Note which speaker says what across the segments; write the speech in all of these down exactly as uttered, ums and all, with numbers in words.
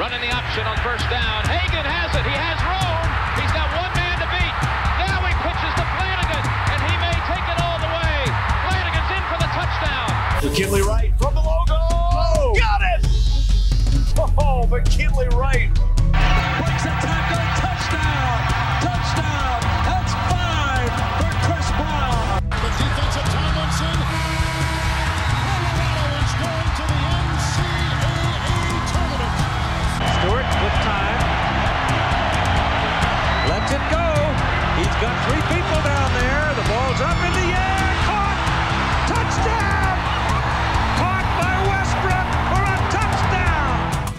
Speaker 1: Running the option on first down. Hagan has it. He has room. He's got one man to beat. Now he pitches to Flanagan, and he may take it all the way. Flanagan's in for the touchdown.
Speaker 2: McKinley Wright from the logo. Oh, got it! Oh, McKinley Wright.
Speaker 3: Breaks a tackle. Touchdown. Touchdown. That's five for Chris Brown.
Speaker 4: The defensive Tomlinson. Colorado is going to the N C double A tournament.
Speaker 3: Stewart with time. Lets it go. He's got three people down there. The ball's up in the air. Caught. Touchdown. Caught by Westbrook for a touchdown.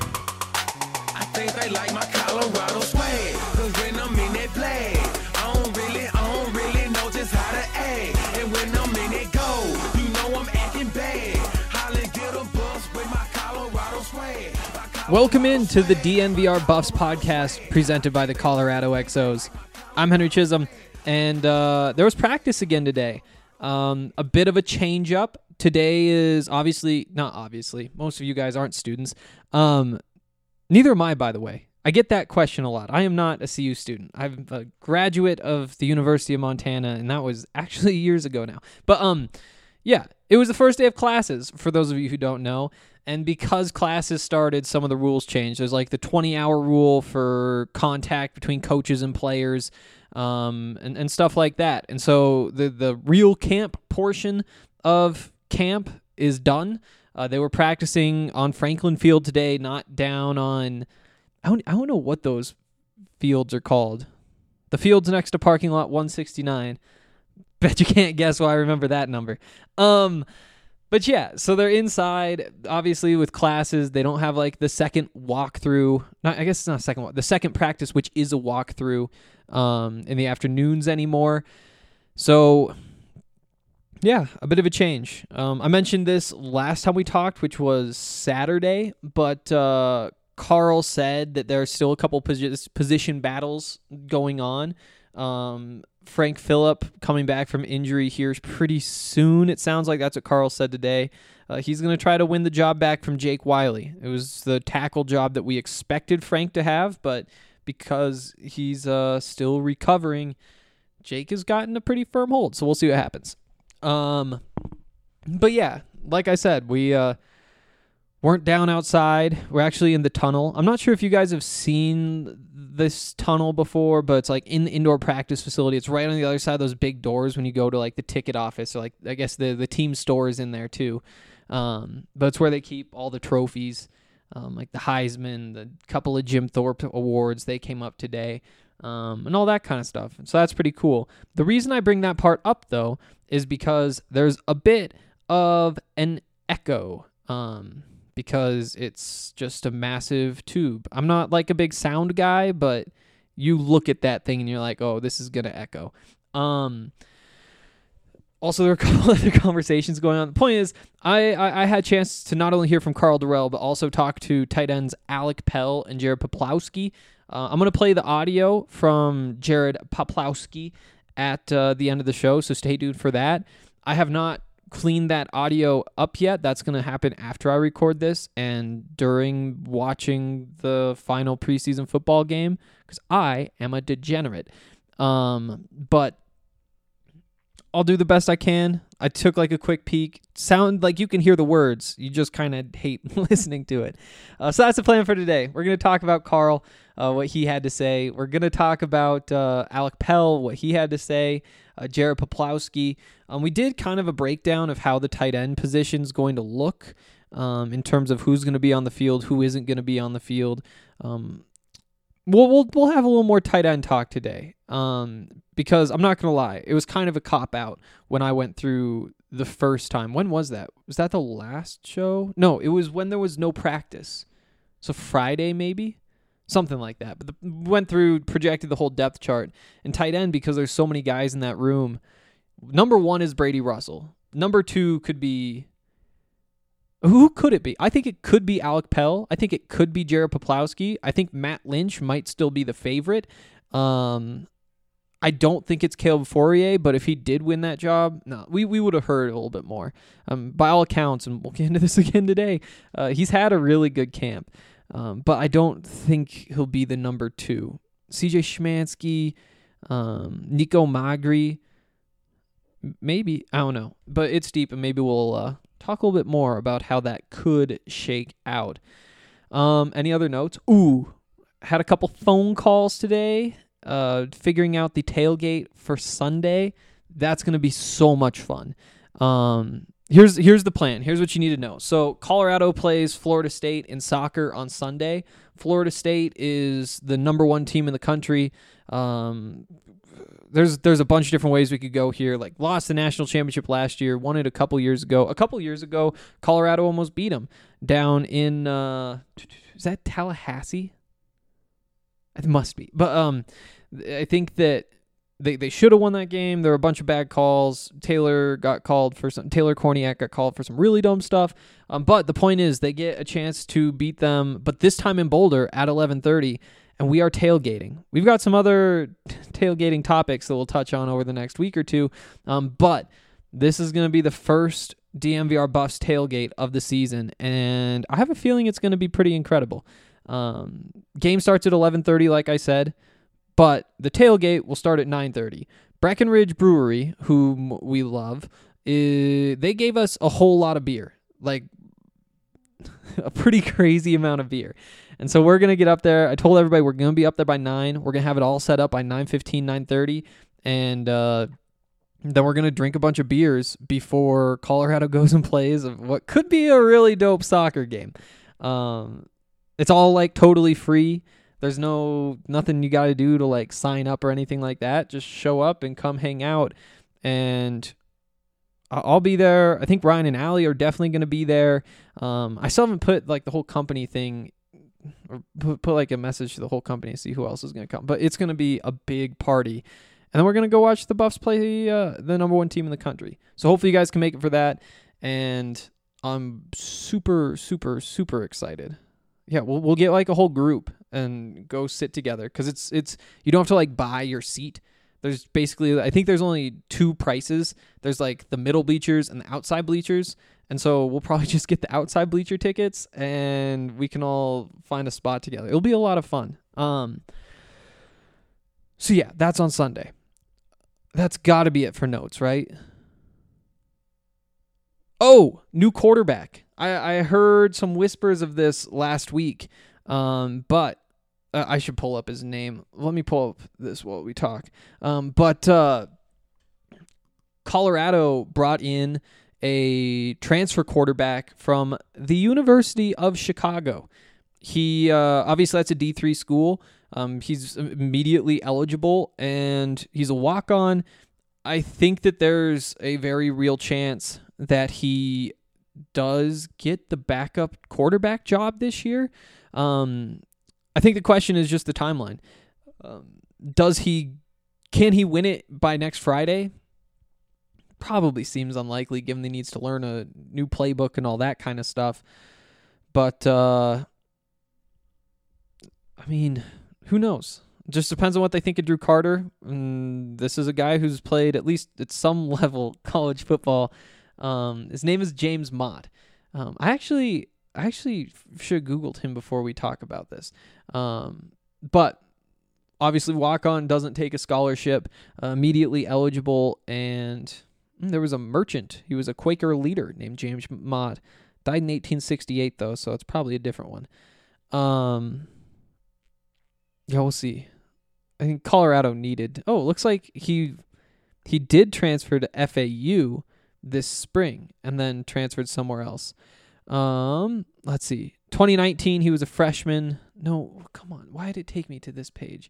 Speaker 5: I think they like my Colorado swag. Cause when I'm in that play, I don't really, I don't really know just how to act. And when I'm in it go, you know I'm acting bad. Holly get a bus with my Colorado swag.
Speaker 6: Welcome in to the D N V R Buffs podcast presented by the Colorado X Os. I'm Henry Chisholm, and uh, there was practice again today. Um, a bit of a change up. Today is obviously, not obviously, most of you guys aren't students. Um, neither am I, by the way. I get that question a lot. I am not a C U student. I'm a graduate of the University of Montana, and that was actually years ago now. But um, yeah, it was the first day of classes, for those of you who don't know. And because classes started, some of the rules changed. There's like the twenty-hour rule for contact between coaches and players, um, and, and stuff like that. And so the, the real camp portion of camp is done. Uh, they were practicing on Franklin Field today, not down on, I don't, I don't know what those fields are called. The fields next to parking lot one sixty-nine. Bet you can't guess why I remember that number. Um... But yeah, so they're inside, obviously, with classes. They don't have, like, the second walkthrough. Not, I guess it's not a second walk. The second practice, which is a walkthrough um, in the afternoons anymore. So, yeah, a bit of a change. Um, I mentioned this last time we talked, which was Saturday. But uh, Carl said that there are still a couple posi- position battles going on. Um, Frank Phillip coming back from injury here pretty soon. It sounds like that's what Carl said today. Uh, he's going to try to win the job back from Jake Wiley. It was the tackle job that we expected Frank to have, but because he's uh, still recovering, Jake has gotten a pretty firm hold, so we'll see what happens. Um, but yeah, like I said, we uh, weren't down outside. We're actually in the tunnel. I'm not sure if you guys have seen this tunnel before, but it's like in the indoor practice facility. It's right on the other side of those big doors when you go to like the ticket office, or like I guess the the team store is in there too. Um, but it's where they keep all the trophies, um, like the Heisman, the couple of Jim Thorpe awards. They came up today, um, and all that kind of stuff. So that's pretty cool. The reason I bring that part up though is because there's a bit of an echo. Um, because it's just a massive tube. I'm not like a big sound guy, but you look at that thing and you're like, oh, this is going to echo. Um, also, there are a couple other conversations going on. The point is, I, I, I had a chance to not only hear from Carl Durrell, but also talk to tight ends Alec Pell and Jared Poplowski. Uh, I'm going to play the audio from Jared Poplowski at uh, the end of the show, so stay tuned for that. I have not clean that audio up yet. That's going to happen after I record this and during watching the final preseason football game, because I am a degenerate. Um, but I'll do the best I can. I took like a quick peek. Sound like you can hear the words. You just kind of hate listening to it. Uh, so that's the plan for today. We're going to talk about Carl, uh, what he had to say. We're going to talk about uh, Alec Pell, what he had to say. Uh, Jared Poplowski. Um, we did kind of a breakdown of how the tight end position is going to look um, in terms of who's going to be on the field, who isn't going to be on the field. Um, we'll, we'll we'll have a little more tight end talk today um, because I'm not going to lie, it was kind of a cop-out when I went through the first time. When was that? Was that the last show? No, it was when there was no practice. So Friday maybe? Something like that. But the, went through, projected the whole depth chart. And tight end, because there's so many guys in that room, number one is Brady Russell. Number two could be... Who could it be? I think it could be Alec Pell. I think it could be Jared Poplowski. I think Matt Lynch might still be the favorite. Um, I don't think it's Caleb Fourier, but if he did win that job, no, we, we would have heard a little bit more. Um, by all accounts, and we'll get into this again today, uh, he's had a really good camp. Um, but I don't think he'll be the number two. C J Szymanski, um, Nico Magri, maybe, I don't know. But it's deep, and maybe we'll uh, talk a little bit more about how that could shake out. Um, any other notes? Ooh, had a couple phone calls today, uh, figuring out the tailgate for Sunday. That's going to be so much fun. Um, here's here's the plan. Here's what you need to know. So Colorado plays Florida State in soccer on Sunday. Florida State is the number one team in the country. Um, there's there's a bunch of different ways we could go here. Like, lost the national championship last year, won it a couple years ago. A couple years ago, Colorado almost beat them down in uh, is that Tallahassee? It must be. But um, I think that They they should have won that game. There were a bunch of bad calls. Taylor got called for some. Taylor Korniak got called for some really dumb stuff. Um, but the point is, they get a chance to beat them, but this time in Boulder at eleven thirty, and we are tailgating. We've got some other tailgating topics that we'll touch on over the next week or two. Um, but this is going to be the first D M V R Buffs tailgate of the season, and I have a feeling it's going to be pretty incredible. Um, game starts at eleven thirty, like I said. But the tailgate will start at nine thirty. Breckenridge Brewery, whom we love, is, they gave us a whole lot of beer. Like, a pretty crazy amount of beer. And so we're going to get up there. I told everybody we're going to be up there by nine. We're going to have it all set up by nine fifteen, nine thirty. And uh, then we're going to drink a bunch of beers before Colorado goes and plays what could be a really dope soccer game. Um, it's all, like, totally free. There's no nothing you got to do to like sign up or anything like that. Just show up and come hang out, and I'll be there. I think Ryan and Allie are definitely going to be there. Um, I still haven't put like the whole company thing, or put, put like a message to the whole company to see who else is going to come. But it's going to be a big party, and then we're going to go watch the Buffs play uh, the number one team in the country. So hopefully you guys can make it for that, and I'm super, super, super excited. Yeah, we'll we'll get like a whole group and go sit together, because it's it's you don't have to like buy your seat. There's basically, I think there's only two prices. There's like the middle bleachers and the outside bleachers, and so we'll probably just get the outside bleacher tickets, and we can all find a spot together. It'll be a lot of fun. Um. So yeah, that's on Sunday. That's got to be it for notes, right? Oh, new quarterback. I, I heard some whispers of this last week, um, but uh, I should pull up his name. Let me pull up this while we talk. Um, but uh, Colorado brought in a transfer quarterback from the University of Chicago. He uh, obviously, that's a D three school. Um, he's immediately eligible, and he's a walk-on. I think that there's a very real chance that he does get the backup quarterback job this year. Um, I think the question is just the timeline. Um, does he, can he win it by next Friday? Probably seems unlikely, given he needs to learn a new playbook and all that kind of stuff. But, uh, I mean, who knows? Just depends on what they think of Drew Carter. And this is a guy who's played at least at some level college football. Um, his name is James Mott. Um, I actually, I actually should have Googled him before we talk about this. Um, but obviously walk-on, doesn't take a scholarship, uh, immediately eligible, and there was a merchant. He was a Quaker leader named James Mott. Died in eighteen sixty-eight though, so it's probably a different one. Um, yeah, we'll see. I think Colorado needed. Oh, it looks like he he did transfer to F A U this spring and then transferred somewhere else. Um, let's see. twenty nineteen, he was a freshman. No, come on. Why did it take me to this page?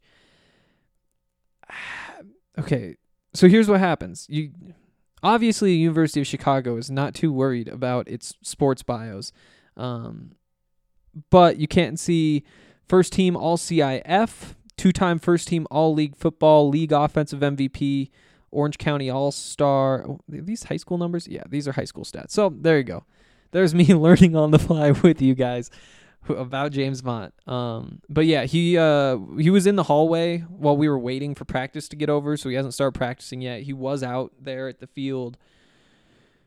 Speaker 6: Okay, so here's what happens. You obviously, the University of Chicago is not too worried about its sports bios, um, but you can't see first team All C I F, two-time first team All-League Football, League Offensive M V P, Orange County All-Star. Oh, are these high school numbers? Yeah, these are high school stats. So there you go. There's me learning on the fly with you guys about James Mott. Um, but yeah, he uh, he was in the hallway while we were waiting for practice to get over, so he hasn't started practicing yet. He was out there at the field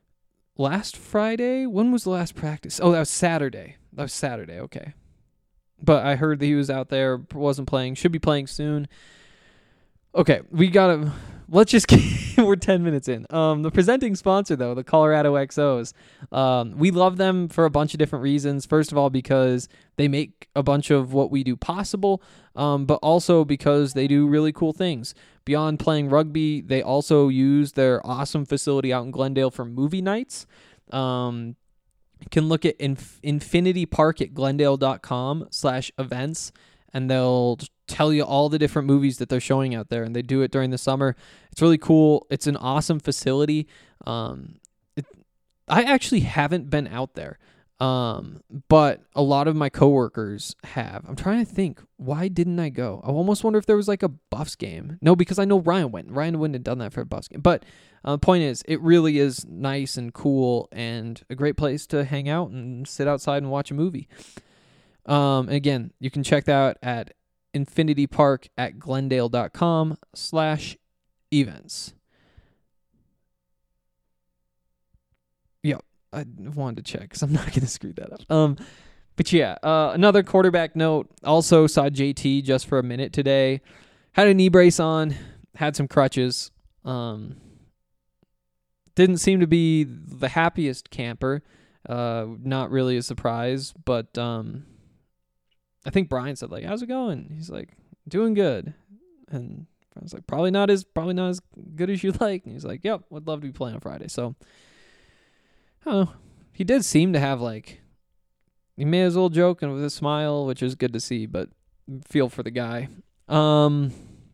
Speaker 6: last Friday. When was the last practice? Oh, that was Saturday. That was Saturday, okay. but I heard that he was out there, wasn't playing, should be playing soon. Okay, we gotta, let's just get, we're ten minutes in. Um, the presenting sponsor, though, the Colorado X Os, um, we love them for a bunch of different reasons. First of all, because they make a bunch of what we do possible, um, but also because they do really cool things. Beyond playing rugby, they also use their awesome facility out in Glendale for movie nights. Um, you can look at inf- Infinity Park at glendale.com slash events, and they'll tell you all the different movies that they're showing out there, and they do it during the summer. It's really cool. It's an awesome facility. Um, it, I actually haven't been out there, um, but a lot of my coworkers have. I'm trying to think, why didn't I go? I almost wonder if there was like a Buffs game. No, because I know Ryan went. Ryan wouldn't have done that for a Buffs game. But uh, the point is, it really is nice and cool and a great place to hang out and sit outside and watch a movie. Um, again, you can check that out at Infinity Park at glendale.com slash events. Yep, I wanted to check because I'm not going to screw that up. Um, but yeah, uh, another quarterback note. Also saw J T just for a minute today. Had a knee brace on, had some crutches. Um, didn't seem to be the happiest camper. Uh, not really a surprise, but um. I think Brian said, like, how's it going? He's like, doing good. And I was like, probably not as probably not as good as you like. And he's like, yep, would love to be playing on Friday. So, I don't know. He did seem to have, like, he may as well joke and with a smile, which is good to see, but feel for the guy. Um,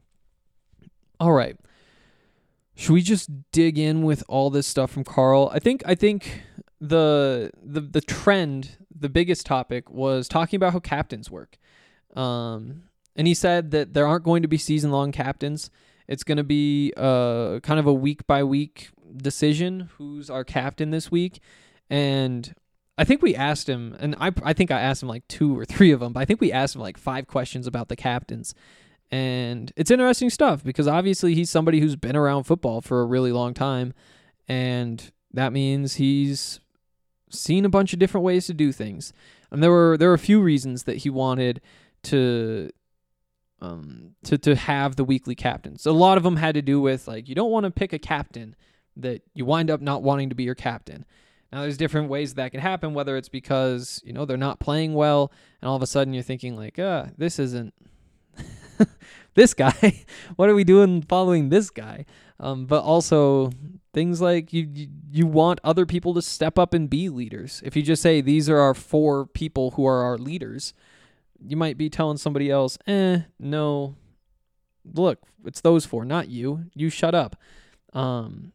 Speaker 6: all right. Should we just dig in with all this stuff from Carl? I think I think the the the trend, the biggest topic was talking about how captains work. Um, and he said that there aren't going to be season-long captains. It's going to be uh kind of a week-by-week decision, who's our captain this week. And I think we asked him, and I I think I asked him like two or three of them, but I think we asked him like five questions about the captains. And it's interesting stuff because obviously he's somebody who's been around football for a really long time, and that means he's seen a bunch of different ways to do things. And there were there were a few reasons that he wanted to um to to have the weekly captains. A lot of them had to do with, like, you don't want to pick a captain that you wind up not wanting to be your captain. Now, there's different ways that can happen, whether it's because, you know, they're not playing well, and all of a sudden you're thinking, like, ah, this isn't this guy. What are we doing following this guy? Um, but also things like you, you you want other people to step up and be leaders. If you just say, these are our four people who are our leaders, you might be telling somebody else, eh, no, look, it's those four, not you. You shut up. Um,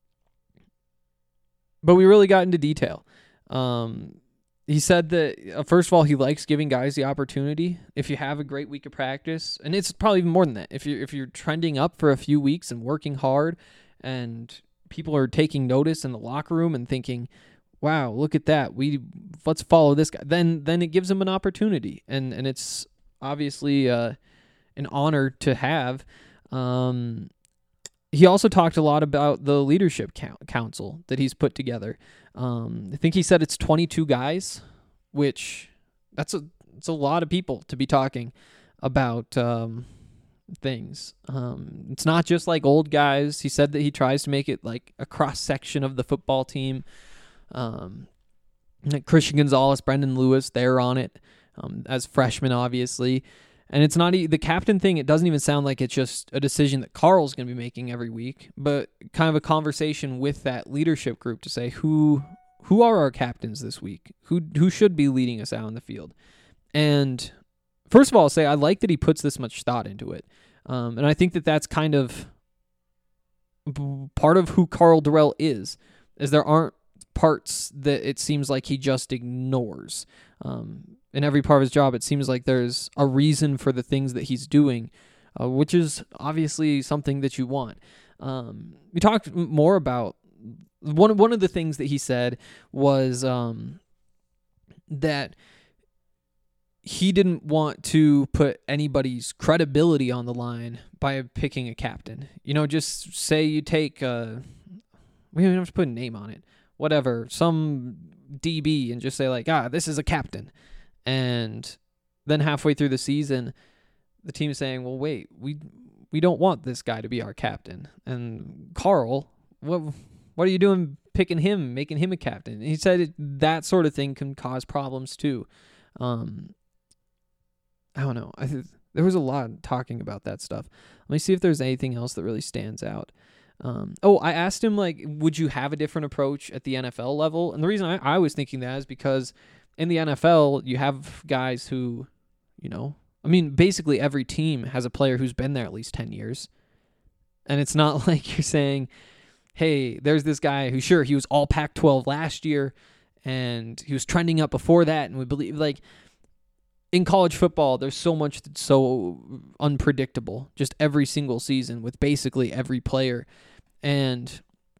Speaker 6: but we really got into detail. Um, He said that, uh, first of all, he likes giving guys the opportunity. If you have a great week of practice, and it's probably even more than that, if you're, if you're trending up for a few weeks and working hard and people are taking notice in the locker room and thinking, wow, look at that, we let's follow this guy, then then it gives him an opportunity. And, and it's obviously uh, an honor to have. Um, he also talked a lot about the leadership council that he's put together. Um, I think he said it's twenty-two guys, which that's a it's a lot of people to be talking about um, things. Um, it's not just like old guys. He said that he tries to make it like a cross section of the football team. Um, like Christian Gonzalez, Brendan Lewis, they're on it um, as freshmen, obviously. And it's not e- the captain thing. It doesn't even sound like it's just a decision that Carl's going to be making every week, but kind of a conversation with that leadership group to say who who are our captains this week, who who should be leading us out in the field. And first of all, I'll say I like that he puts this much thought into it, um, and I think that that's kind of part of who Karl Dorrell is. Is there aren't parts that it seems like he just ignores. Um, in every part of his job, it seems like there's a reason for the things that he's doing, uh, which is obviously something that you want. Um, we talked more about one, one of the things that he said was um, that he didn't want to put anybody's credibility on the line by picking a captain. You know, just say you take, uh, we don't even have to put a name on it, whatever, some D B, and just say like, ah, this is a captain. And then halfway through the season, the team is saying, well, wait, we we don't want this guy to be our captain. And Carl, what what are you doing picking him, making him a captain? And he said it, that sort of thing can cause problems too. Um, I don't know. I th- there was a lot talking about that stuff. Let me see if there's anything else that really stands out. Um, oh, I asked him, like, would you have a different approach at the N F L level? And the reason I, I was thinking that is because in the N F L, you have guys who, you know, I mean, basically every team has a player who's been there at least ten years. And it's not like you're saying, hey, there's this guy who, sure, he was all Pac twelve last year, and he was trending up before that, and we believe, like, in college football, there's so much that's so unpredictable, just every single season with basically every player. And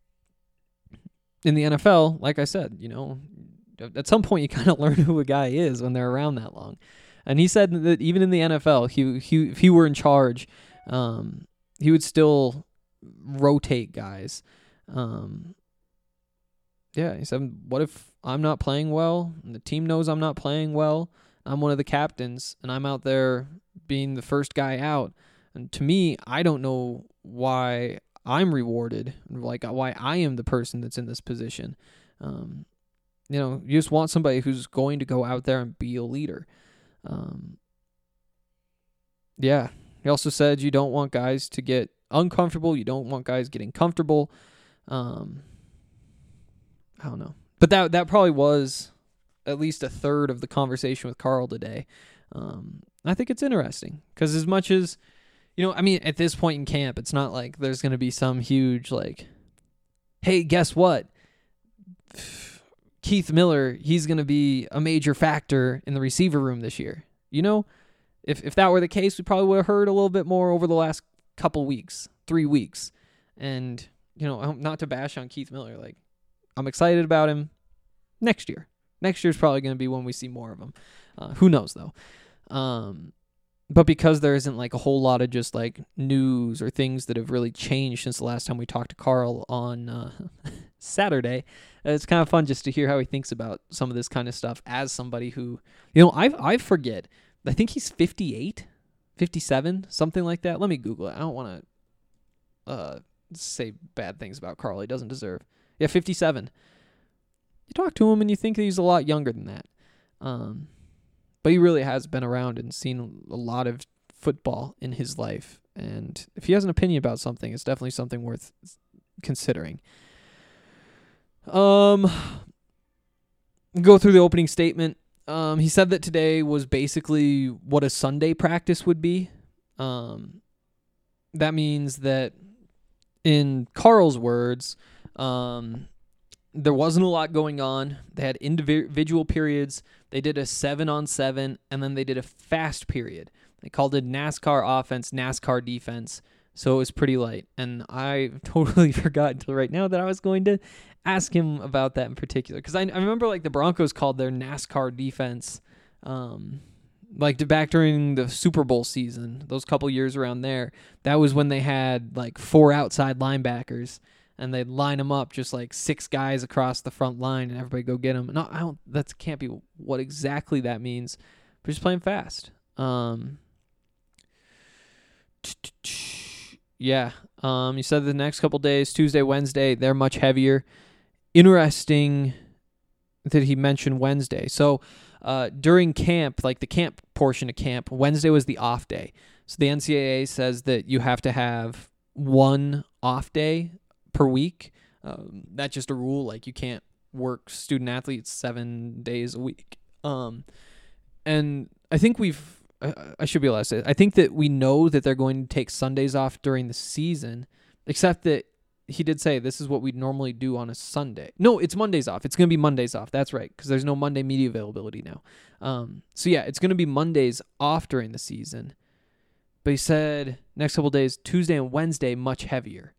Speaker 6: in the N F L, like I said, you know, at some point you kind of learn who a guy is when they're around that long. And he said that even in the N F L, he, he if he were in charge, um, he would still rotate guys. Um, yeah, he said, what if I'm not playing well and the team knows I'm not playing well? I'm one of the captains, and I'm out there being the first guy out. And to me, I don't know why I'm rewarded, like why I am the person that's in this position. Um, you know, you just want somebody who's going to go out there and be a leader. Um, yeah. He also said you don't want guys to get uncomfortable. You don't want guys getting comfortable. Um, I don't know. But that that probably was at least a third of the conversation with Carl today. Um, I think it's interesting because as much as, you know, I mean, at this point in camp, it's not like there's going to be some huge, like, hey, guess what? Keith Miller, he's going to be a major factor in the receiver room this year. You know, if if that were the case, we probably would have heard a little bit more over the last couple weeks, three weeks. And, you know, not to bash on Keith Miller, like, I'm excited about him next year. Next year's probably going to be when we see more of him. Uh, who knows, though? Um, but because there isn't, like, a whole lot of just, like, news or things that have really changed since the last time we talked to Carl on uh, Saturday, it's kind of fun just to hear how he thinks about some of this kind of stuff as somebody who, you know, I I forget. I think he's fifty-eight, fifty-seven, something like that. Let me Google it. I don't want to uh, say bad things about Carl. He doesn't deserve. Yeah, fifty-seven. You talk to him and you think he's a lot younger than that. Um, but he really has been around and seen a lot of football in his life. And if he has an opinion about something, it's definitely something worth considering. Um, go through the opening statement. Um, he said that today was basically what a Sunday practice would be. Um, that means that in Carl's words, um, there wasn't a lot going on. They had individual periods. They did a seven on seven, and then they did a fast period. They called it NASCAR offense, NASCAR defense. So it was pretty light. And I totally forgot until right now that I was going to ask him about that in particular. Because I, I remember like the Broncos called their NASCAR defense, um, like back during the Super Bowl season, those couple years around there. That was when they had like four outside linebackers. And they'd line them up just like six guys across the front line and everybody go get them. No, I don't, that can't be what exactly that means. But just playing fast. Um, yeah. Um, you said the next couple days, Tuesday, Wednesday, they're much heavier. Interesting that he mentioned Wednesday. So uh, during camp, like the camp portion of camp, Wednesday was the off day. So the N C double A says that you have to have one off day per week. Um, that's just a rule. Like you can't work student athletes seven days a week. Um, and I think we've, I, I should be allowed to say, I think that we know that they're going to take Sundays off during the season, except that he did say this is what we'd normally do on a Sunday. No, it's Mondays off. It's going to be Mondays off. That's right. Because there's no Monday media availability now. Um, so yeah, it's going to be Mondays off during the season. But he said next couple days, Tuesday and Wednesday, much heavier.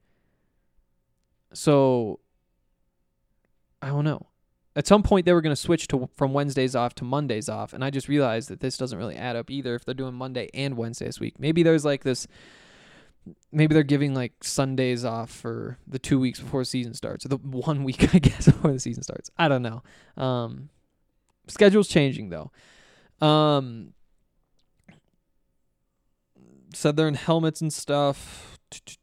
Speaker 6: So, I don't know. At some point, they were going to switch to from Wednesdays off to Mondays off, and I just realized that this doesn't really add up either if they're doing Monday and Wednesday this week. Maybe there's like this, maybe they're giving like Sundays off for the two weeks before the season starts, or the one week, I guess, before the season starts. I don't know. Um, schedule's changing, though. Um, said they're in helmets and stuff.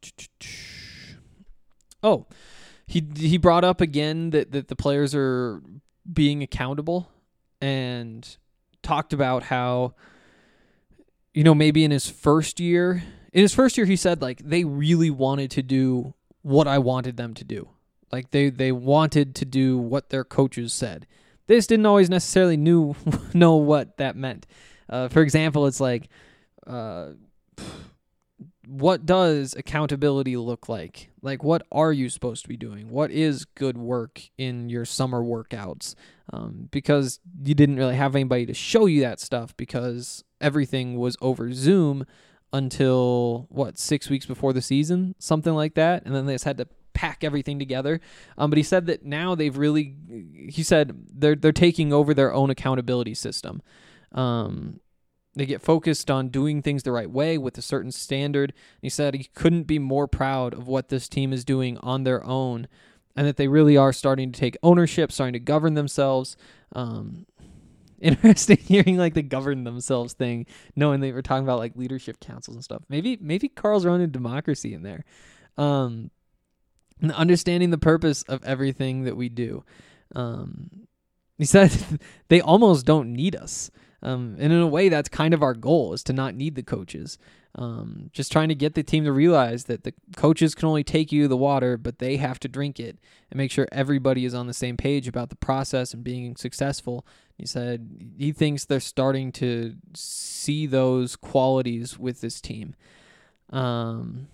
Speaker 6: Oh, he he brought up again that, that the players are being accountable and talked about how, you know, maybe in his first year, in his first year, he said, like, they really wanted to do what I wanted them to do. Like, they, they wanted to do what their coaches said. They just didn't always necessarily knew know what that meant. Uh, for example, it's like, uh, what does accountability look like? Like, what are you supposed to be doing? What is good work in your summer workouts? Um, because you didn't really have anybody to show you that stuff because everything was over Zoom until, what, six weeks before the season? Something like that. And then they just had to pack everything together. Um, but he said that now they've really, he said they're they're taking over their own accountability system. Um, they get focused on doing things the right way with a certain standard. He said he couldn't be more proud of what this team is doing on their own, and that they really are starting to take ownership, starting to govern themselves. Um, interesting hearing like the govern themselves thing, knowing they were talking about like leadership councils and stuff. Maybe maybe Carl's running democracy in there. Um, and understanding the purpose of everything that we do. Um, he said they almost don't need us. Um, and in a way, that's kind of our goal, is to not need the coaches. Um, just trying to get the team to realize that the coaches can only take you to the water, but they have to drink it, and make sure everybody is on the same page about the process and being successful. He said he thinks they're starting to see those qualities with this team. Um,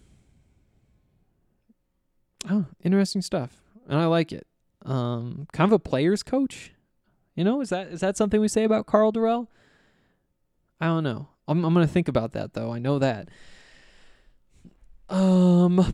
Speaker 6: oh, interesting stuff. And I like it. Um, kind of a player's coach. You know, is that is that something we say about Karl Dorrell? I don't know. I'm I'm gonna think about that though. I know that. Um,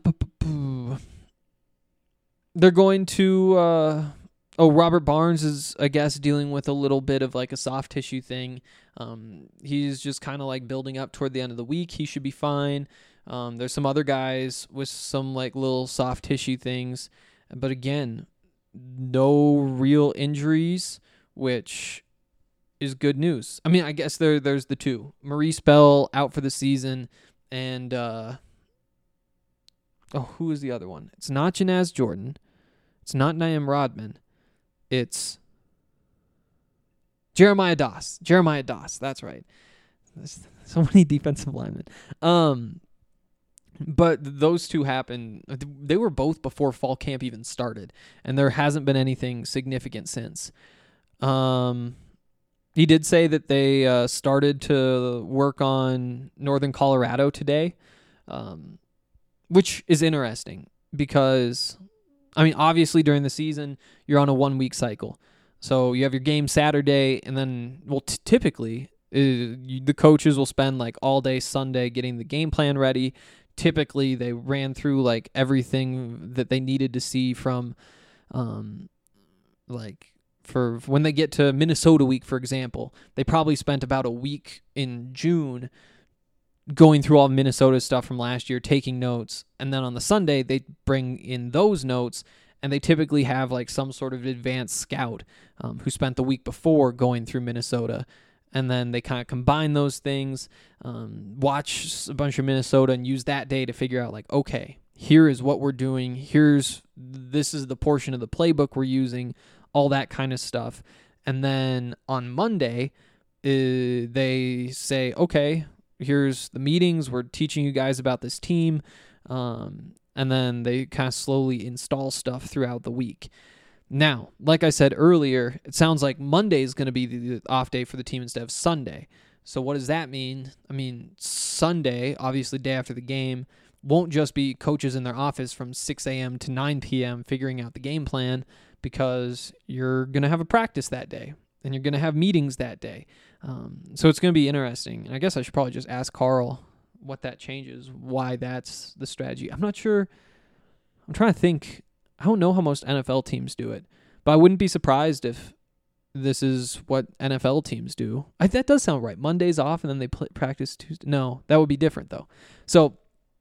Speaker 6: they're going to. Uh, oh, Robert Barnes is, I guess, dealing with a little bit of like a soft tissue thing. Um, he's just kind of like building up toward the end of the week. He should be fine. Um, there's some other guys with some like little soft tissue things, but again, no real injuries, which is good news. I mean, I guess there there's the two. Maurice Bell out for the season, and uh, oh, who is the other one? It's not Janaz Jordan. It's not Naim Rodman. It's Jeremiah Doss. Jeremiah Doss. That's right. There's so many defensive linemen. Um, but those two happened. They were both before fall camp even started, and there hasn't been anything significant since. Um, he did say that they uh, started to work on Northern Colorado today, um, which is interesting because, I mean, obviously during the season, you're on a one-week cycle. So you have your game Saturday, and then, well, t- typically, uh, you, the coaches will spend like all day Sunday getting the game plan ready. Typically, they ran through like everything that they needed to see from, um, like, for when they get to Minnesota week, for example, they probably spent about a week in June going through all Minnesota stuff from last year, taking notes, and then on the Sunday, they bring in those notes, and they typically have like some sort of advanced scout um, who spent the week before going through Minnesota, and then they kind of combine those things, um, watch a bunch of Minnesota, and use that day to figure out like, okay, here is what we're doing, here's, this is the portion of the playbook we're using, all that kind of stuff. And then on Monday, uh, they say, okay, here's the meetings. We're teaching you guys about this team. Um, and then they kind of slowly install stuff throughout the week. Now, like I said earlier, it sounds like Monday is going to be the off day for the team instead of Sunday. So what does that mean? I mean, Sunday, obviously day after the game, won't just be coaches in their office from six a.m. to nine p.m. figuring out the game plan, because you're going to have a practice that day, and you're going to have meetings that day. Um, so it's going to be interesting. And I guess I should probably just ask Karl what that changes, why that's the strategy. I'm not sure. I'm trying to think. I don't know how most N F L teams do it, but I wouldn't be surprised if this is what N F L teams do. I, that does sound right. Monday's off, and then they play, practice Tuesday. No, that would be different, though. So,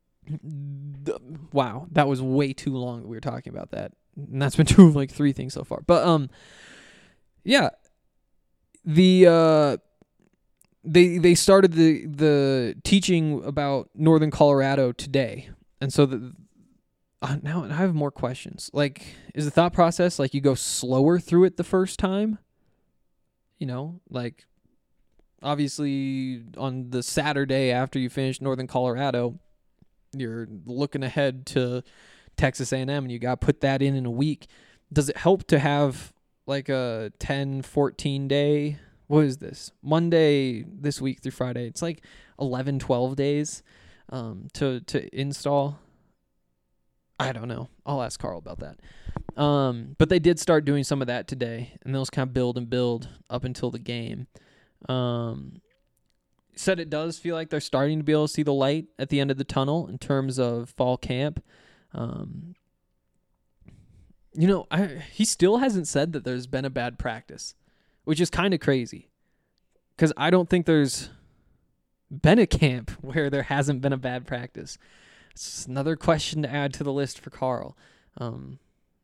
Speaker 6: th- wow, that was way too long that we were talking about that. And that's been true of like three things so far. But um, yeah, the uh, they they started the the teaching about Northern Colorado today, and so the uh, now I have more questions. Like, is the thought process like you go slower through it the first time? You know, like obviously on the Saturday after you finish Northern Colorado, you're looking ahead to Texas A and M, and you got to put that in in a week. Does it help to have like a ten, fourteen day? What is this? Monday this week through Friday. It's like eleven, twelve days um, to to install. I don't know. I'll ask Carl about that. Um, but they did start doing some of that today, and those kind of build and build up until the game. Um, said it does feel like they're starting to be able to see the light at the end of the tunnel in terms of fall camp. Um, you know, I, he still hasn't said that there's been a bad practice, which is kind of crazy because I don't think there's been a camp where there hasn't been a bad practice. It's another question to add to the list for Carl. Um,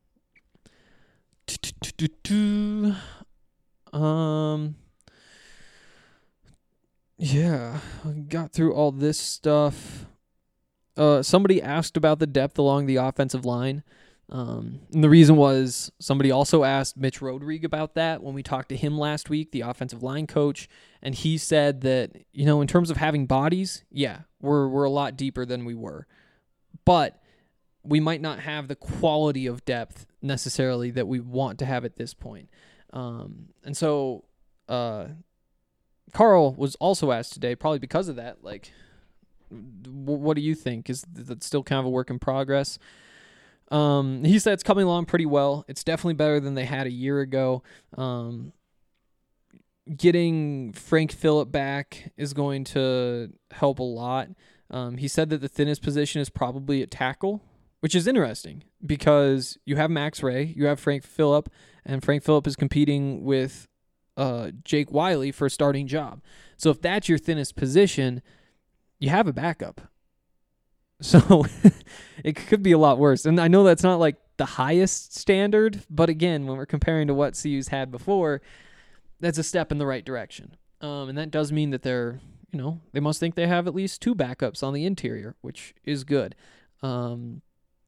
Speaker 6: um, yeah, I got through all this stuff. Uh, somebody asked about the depth along the offensive line. Um, and the reason was somebody also asked Mitch Rodrigue about that when we talked to him last week, the offensive line coach, and he said that, you know, in terms of having bodies, yeah, we're we're a lot deeper than we were, but we might not have the quality of depth necessarily that we want to have at this point. Um, and so uh, Carl was also asked today, probably because of that, like, w- what do you think? Is that still kind of a work in progress? Um, he said it's coming along pretty well. It's definitely better than they had a year ago. Um, getting Frank Phillip back is going to help a lot. Um, he said that the thinnest position is probably at tackle, which is interesting because you have Max Ray, you have Frank Phillip, and Frank Phillip is competing with uh, Jake Wiley for a starting job. So if that's your thinnest position, you have a backup. So it could be a lot worse. And I know that's not like the highest standard, but again, when we're comparing to what C U's had before, that's a step in the right direction. Um, and that does mean that they're, you know, they must think they have at least two backups on the interior, which is good. Um,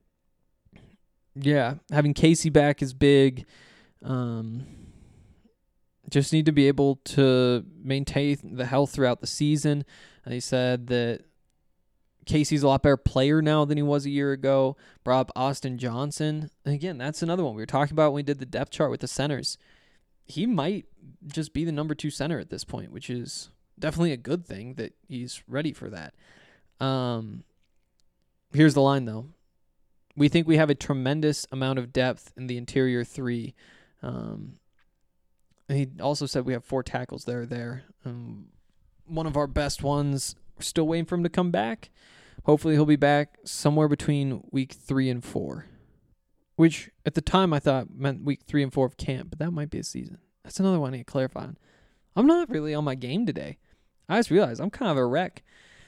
Speaker 6: yeah, having Casey back is big. Um, just need to be able to maintain the health throughout the season. They said that Casey's a lot better player now than he was a year ago. Brought up Austin Johnson. And again, that's another one we were talking about when we did the depth chart with the centers. He might just be the number two center at this point, which is definitely a good thing that he's ready for that. Um, here's the line, though. We think we have a tremendous amount of depth in the interior three. Um, and he also said we have four tackles there. There, um, one of our best ones. We're still waiting for him to come back. Hopefully he'll be back somewhere between week three and four, which at the time I thought meant week three and four of camp, but that might be a season. That's another one I need to clarify on. I'm not really on my game today. I just realized I'm kind of a wreck.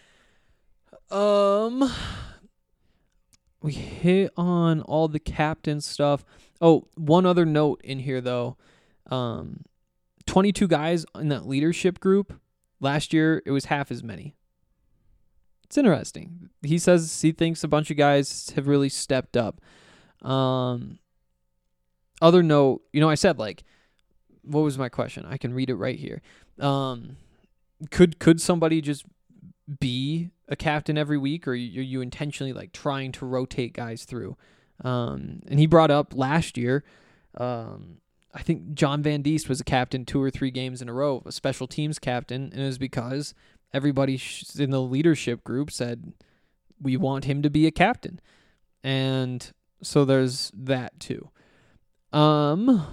Speaker 6: Um, we hit on all the captain stuff. Oh, one other note in here though. Um, twenty-two guys in that leadership group. Last year it was half as many. It's interesting. He says he thinks a bunch of guys have really stepped up. Um, other note, you know, I said like, what was my question? I can read it right here. Um, could could somebody just be a captain every week, or are you, are you intentionally like trying to rotate guys through? Um, and he brought up last year. Um, I think John Van Diest was a captain two or three games in a row, a special teams captain, and it was because everybody in the leadership group said, we want him to be a captain. And so there's that too. Um,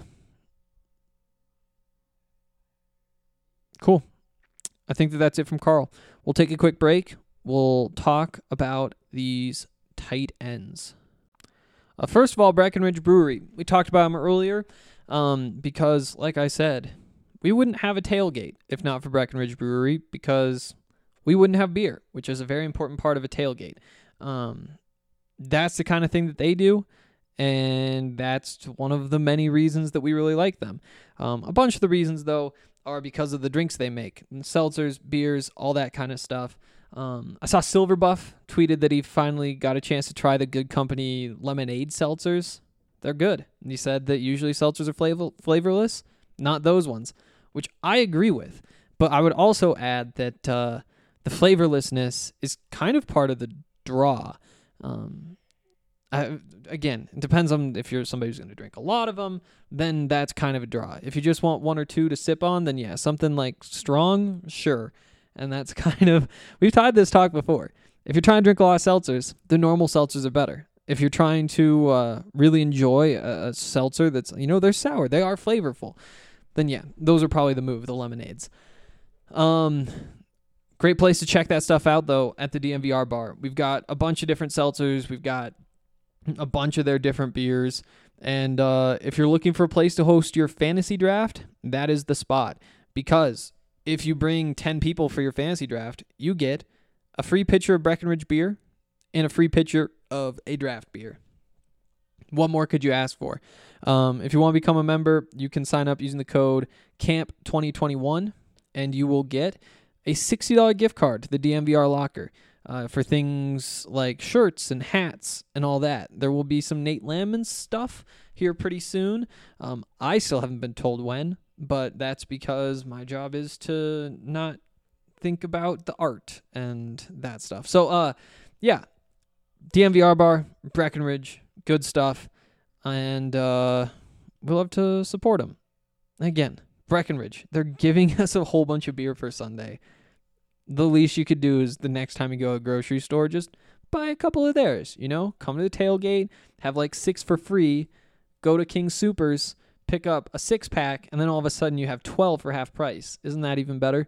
Speaker 6: cool. I think that that's it from Carl. We'll take a quick break. We'll talk about these tight ends. Uh, first of all, Breckenridge Brewery. We talked about them earlier um, because, like I said, we wouldn't have a tailgate if not for Breckenridge Brewery because we wouldn't have beer, which is a very important part of a tailgate. Um, that's the kind of thing that they do, and that's one of the many reasons that we really like them. Um, a bunch of the reasons, though, are because of the drinks they make. And seltzers, beers, all that kind of stuff. Um, I saw Silver Buff tweeted that he finally got a chance to try the Good Company lemonade seltzers. They're good. And he said that usually seltzers are flavor- flavorless, not those ones, which I agree with. But I would also add that uh, the flavorlessness is kind of part of the draw. Um, I, again, it depends on if you're somebody who's going to drink a lot of them, then that's kind of a draw. If you just want one or two to sip on, then yeah, something like strong, sure. And that's kind of, we've had this talk before. If you're trying to drink a lot of seltzers, the normal seltzers are better. If you're trying to uh, really enjoy a, a seltzer that's, you know, they're sour, they are flavorful, then yeah, those are probably the move, the lemonades. Um, great place to check that stuff out, though, at the D M V R bar. We've got a bunch of different seltzers. We've got a bunch of their different beers. And uh, if you're looking for a place to host your fantasy draft, that is the spot. Because if you bring ten people for your fantasy draft, you get a free pitcher of Breckenridge beer and a free pitcher of a draft beer. What more could you ask for? Um, if you want to become a member, you can sign up using the code camp twenty twenty-one, and you will get a sixty dollars gift card to the D M V R locker uh, for things like shirts and hats and all that. There will be some Nate Landman stuff here pretty soon. Um, I still haven't been told when, but that's because my job is to not think about the art and that stuff. So, uh, yeah, D M V R bar, Breckenridge, good stuff, and uh, we'll love to support them. Again, Breckenridge, they're giving us a whole bunch of beer for Sunday. The least you could do is the next time you go to a grocery store, just buy a couple of theirs, you know? Come to the tailgate, have like six for free, go to King Soopers, pick up a six-pack, and then all of a sudden you have twelve for half price. Isn't that even better?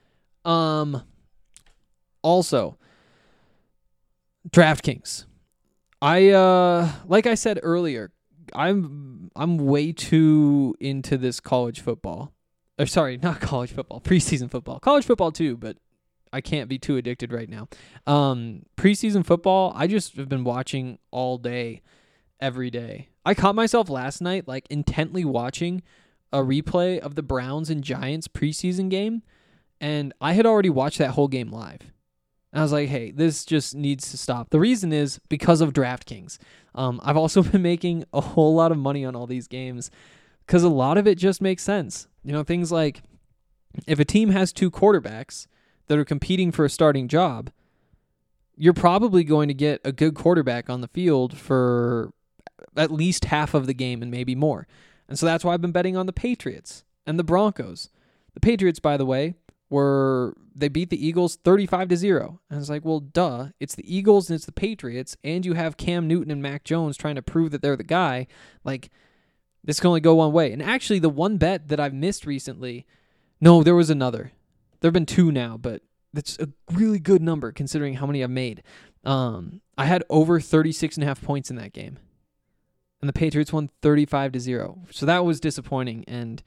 Speaker 6: Um. Also, DraftKings. I, uh, like I said earlier, I'm I'm way too into this college football. Or sorry, not college football, preseason football. College football too, but I can't be too addicted right now. Um, preseason football, I just have been watching all day, every day. I caught myself last night, like, intently watching a replay of the Browns and Giants preseason game, and I had already watched that whole game live. And I was like, hey, this just needs to stop. The reason is because of DraftKings. Um, I've also been making a whole lot of money on all these games because a lot of it just makes sense. You know, things like if a team has two quarterbacks that are competing for a starting job, you're probably going to get a good quarterback on the field for at least half of the game and maybe more. And so that's why I've been betting on the Patriots and the Broncos. The Patriots, by the way, were they beat the Eagles thirty-five to zero. And I was like, well, duh. It's the Eagles and it's the Patriots, and you have Cam Newton and Mac Jones trying to prove that they're the guy. Like, this can only go one way. And actually, the one bet that I've missed recently, no, there was another. There have been two now, but that's a really good number considering how many I've made. Um, I had over thirty-six and a half points in that game. And the Patriots won thirty-five to zero. So that was disappointing, and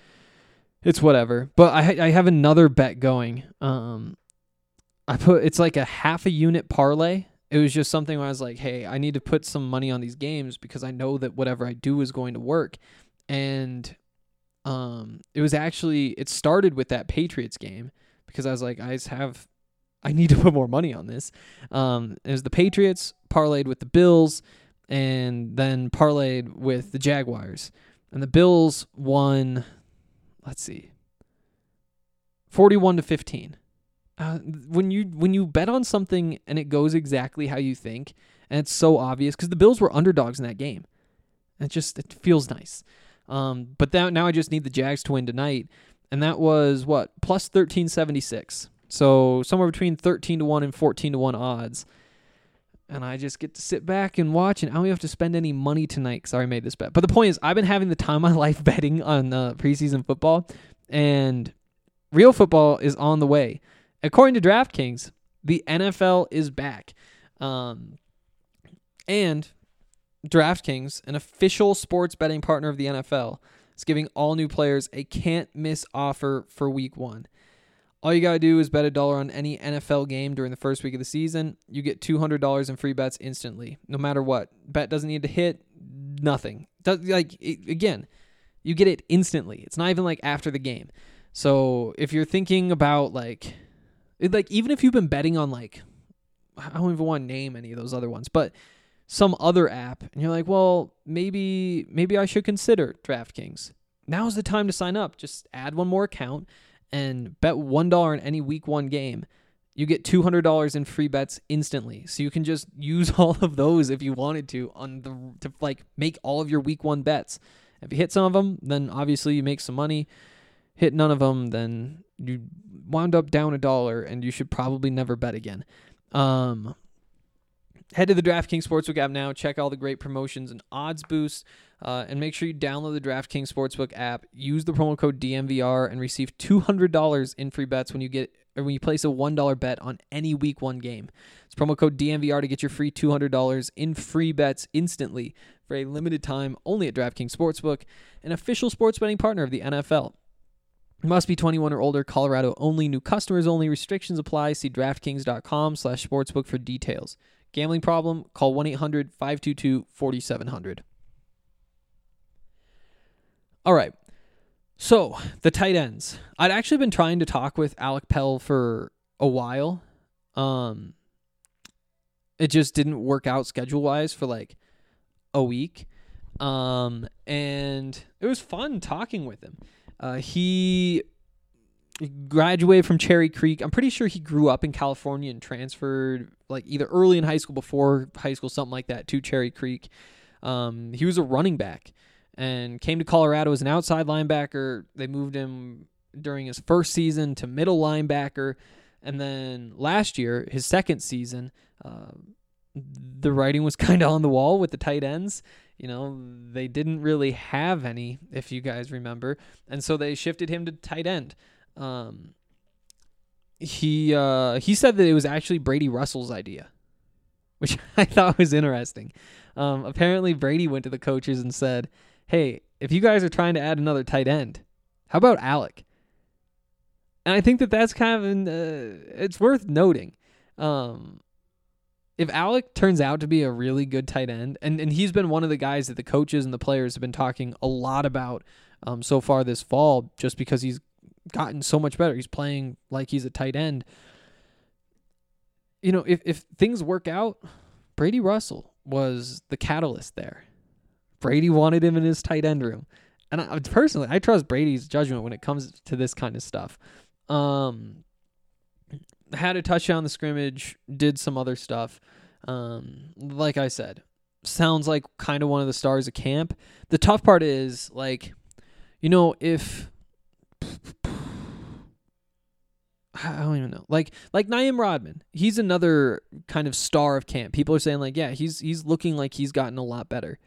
Speaker 6: it's whatever. But I I have another bet going. Um, I put it's like a half a unit parlay. It was just something where I was like, hey, I need to put some money on these games because I know that whatever I do is going to work. And um, it was actually, it started with that Patriots game because I was like, I just have, I need to put more money on this. Um, it was the Patriots parlayed with the Bills and then parlayed with the Jaguars. And the Bills won, let's see, forty-one to fifteen. Uh, when you when you bet on something and it goes exactly how you think, and it's so obvious, because the Bills were underdogs in that game. It just it feels nice. Um, but that, now I just need the Jags to win tonight, and that was, what, plus thirteen seventy-six. So somewhere between thirteen to one and fourteen to one odds. And I just get to sit back and watch, and I don't have to spend any money tonight because I already made this bet. But the point is, I've been having the time of my life betting on uh, preseason football, and real football is on the way. According to DraftKings, the N F L is back. Um, and DraftKings, an official sports betting partner of the N F L, is giving all new players a can't-miss offer for week one. All you got to do is bet a dollar on any N F L game during the first week of the season. You get two hundred dollars in free bets instantly, no matter what. Bet doesn't need to hit, nothing. Does, like it, again, you get it instantly. It's not even like after the game. So if you're thinking about like, it, like even if you've been betting on like, I don't even want to name any of those other ones, but some other app, and you're like, well, maybe maybe I should consider DraftKings. Now's the time to sign up. Just add one more account and bet one dollar in any week one game. You get two hundred dollars in free bets instantly. So you can just use all of those if you wanted to on the to like make all of your week one bets. If you hit some of them, then obviously you make some money. Hit none of them, then you wound up down a dollar, and you should probably never bet again. Um, head to the DraftKings Sportsbook app now. Check all the great promotions and odds boosts, uh, and make sure you download the DraftKings Sportsbook app. Use the promo code D M V R and receive two hundred dollars in free bets when you get or when you place a one dollar bet on any Week One game. It's promo code D M V R to get your free two hundred dollars in free bets instantly for a limited time only at DraftKings Sportsbook, an official sports betting partner of the N F L. Must be twenty-one or older. Colorado only. New customers only. Restrictions apply. See DraftKings.com slash sportsbook for details. Gambling problem? Call one eight hundred five two two four seven zero zero. All right. So, the tight ends. I'd actually been trying to talk with Alec Pell for a while. Um, it just didn't work out schedule-wise for like a week. Um, and it was fun talking with him. Uh, he graduated from Cherry Creek. I'm pretty sure he grew up in California and transferred like either early in high school, before high school, something like that, to Cherry Creek. Um, he was a running back and came to Colorado as an outside linebacker. They moved him during his first season to middle linebacker. And then last year, his second season, uh, the writing was kind of on the wall with the tight ends. You know, they didn't really have any, if you guys remember. And so they shifted him to tight end. Um, he uh, he said that it was actually Brady Russell's idea, which I thought was interesting. Um, apparently, Brady went to the coaches and said, hey, if you guys are trying to add another tight end, how about Alec? And I think that that's kind of, an, uh, it's worth noting. Um If Alec turns out to be a really good tight end, and, and he's been one of the guys that the coaches and the players have been talking a lot about um, so far this fall, just because he's gotten so much better. He's playing like he's a tight end. You know, if, if things work out, Brady Russell was the catalyst there. Brady wanted him in his tight end room. And I, personally, I trust Brady's judgment when it comes to this kind of stuff. Um... Had a touchdown in the scrimmage, did some other stuff. Um, like I said, sounds like kind of one of the stars of camp. The tough part is, like, you know, if I don't even know, like like Naeem Rodman, he's another kind of star of camp. People are saying like, yeah, he's he's looking like he's gotten a lot better.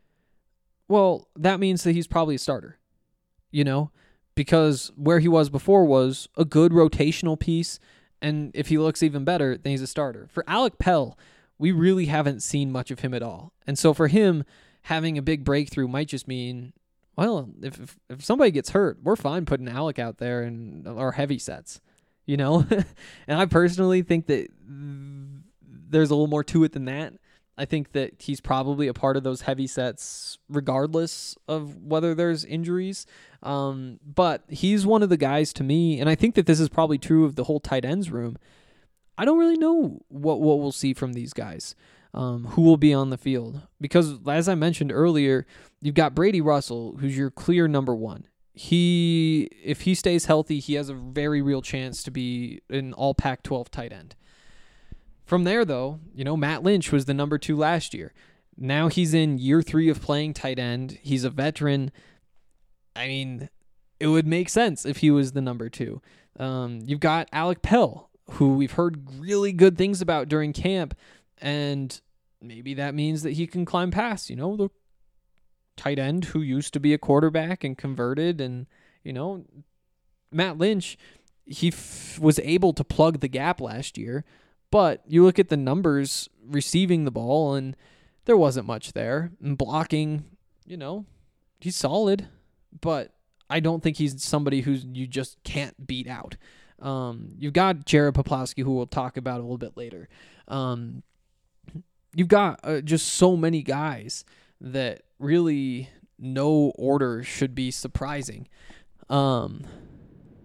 Speaker 6: Well, that means that he's probably a starter, you know, because where he was before was a good rotational piece. And if he looks even better, then he's a starter. For Alec Pell, we really haven't seen much of him at all. And so for him, having a big breakthrough might just mean, well, if if, if somebody gets hurt, we're fine putting Alec out there in our heavy sets, you know? And I personally think that there's a little more to it than that. I think that he's probably a part of those heavy sets regardless of whether there's injuries. Um, but he's one of the guys to me, and I think that this is probably true of the whole tight ends room. I don't really know what, what we'll see from these guys, um, who will be on the field. Because as I mentioned earlier, you've got Brady Russell, who's your clear number one. He, if he stays healthy, he has a very real chance to be an all Pac twelve tight end. From there, though, you know, Matt Lynch was the number two last year. Now he's in year three of playing tight end. He's a veteran. I mean, it would make sense if he was the number two. Um, you've got Alec Pell, who we've heard really good things about during camp, and maybe that means that he can climb past, you know, the tight end who used to be a quarterback and converted. And, you know, Matt Lynch, he f- was able to plug the gap last year. But you look at the numbers receiving the ball, and there wasn't much there. And blocking, you know, he's solid, but I don't think he's somebody who you just can't beat out. Um, you've got Jared Poplowski, who we'll talk about a little bit later. Um, you've got uh, just so many guys that really no order should be surprising. Um,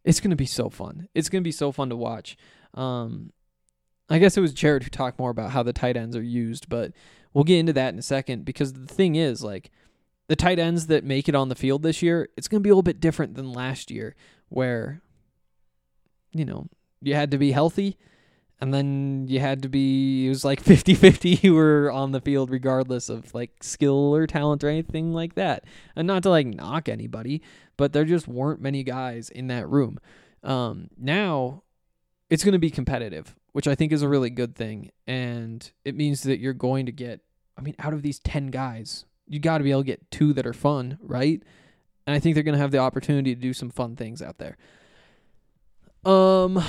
Speaker 6: It's going to be so fun. It's going to be so fun to watch. Um, I guess it was Jared who talked more about how the tight ends are used, but we'll get into that in a second, because the thing is, like, the tight ends that make it on the field this year, it's going to be a little bit different than last year, where, you know, you had to be healthy, and then you had to be, it was like fifty-fifty you were on the field regardless of, like, skill or talent or anything like that. And not to, like, knock anybody, but there just weren't many guys in that room. Um, now, it's going to be competitive, which I think is a really good thing. And it means that you're going to get, I mean, out of these ten guys, you got to be able to get two that are fun, right? And I think they're going to have the opportunity to do some fun things out there. Um,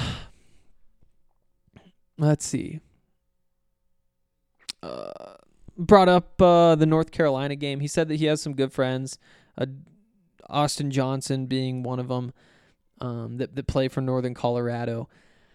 Speaker 6: let's see. Uh, brought up uh, the North Carolina game. He said that he has some good friends, uh, Austin Johnson being one of them, um, that, that play for Northern Colorado.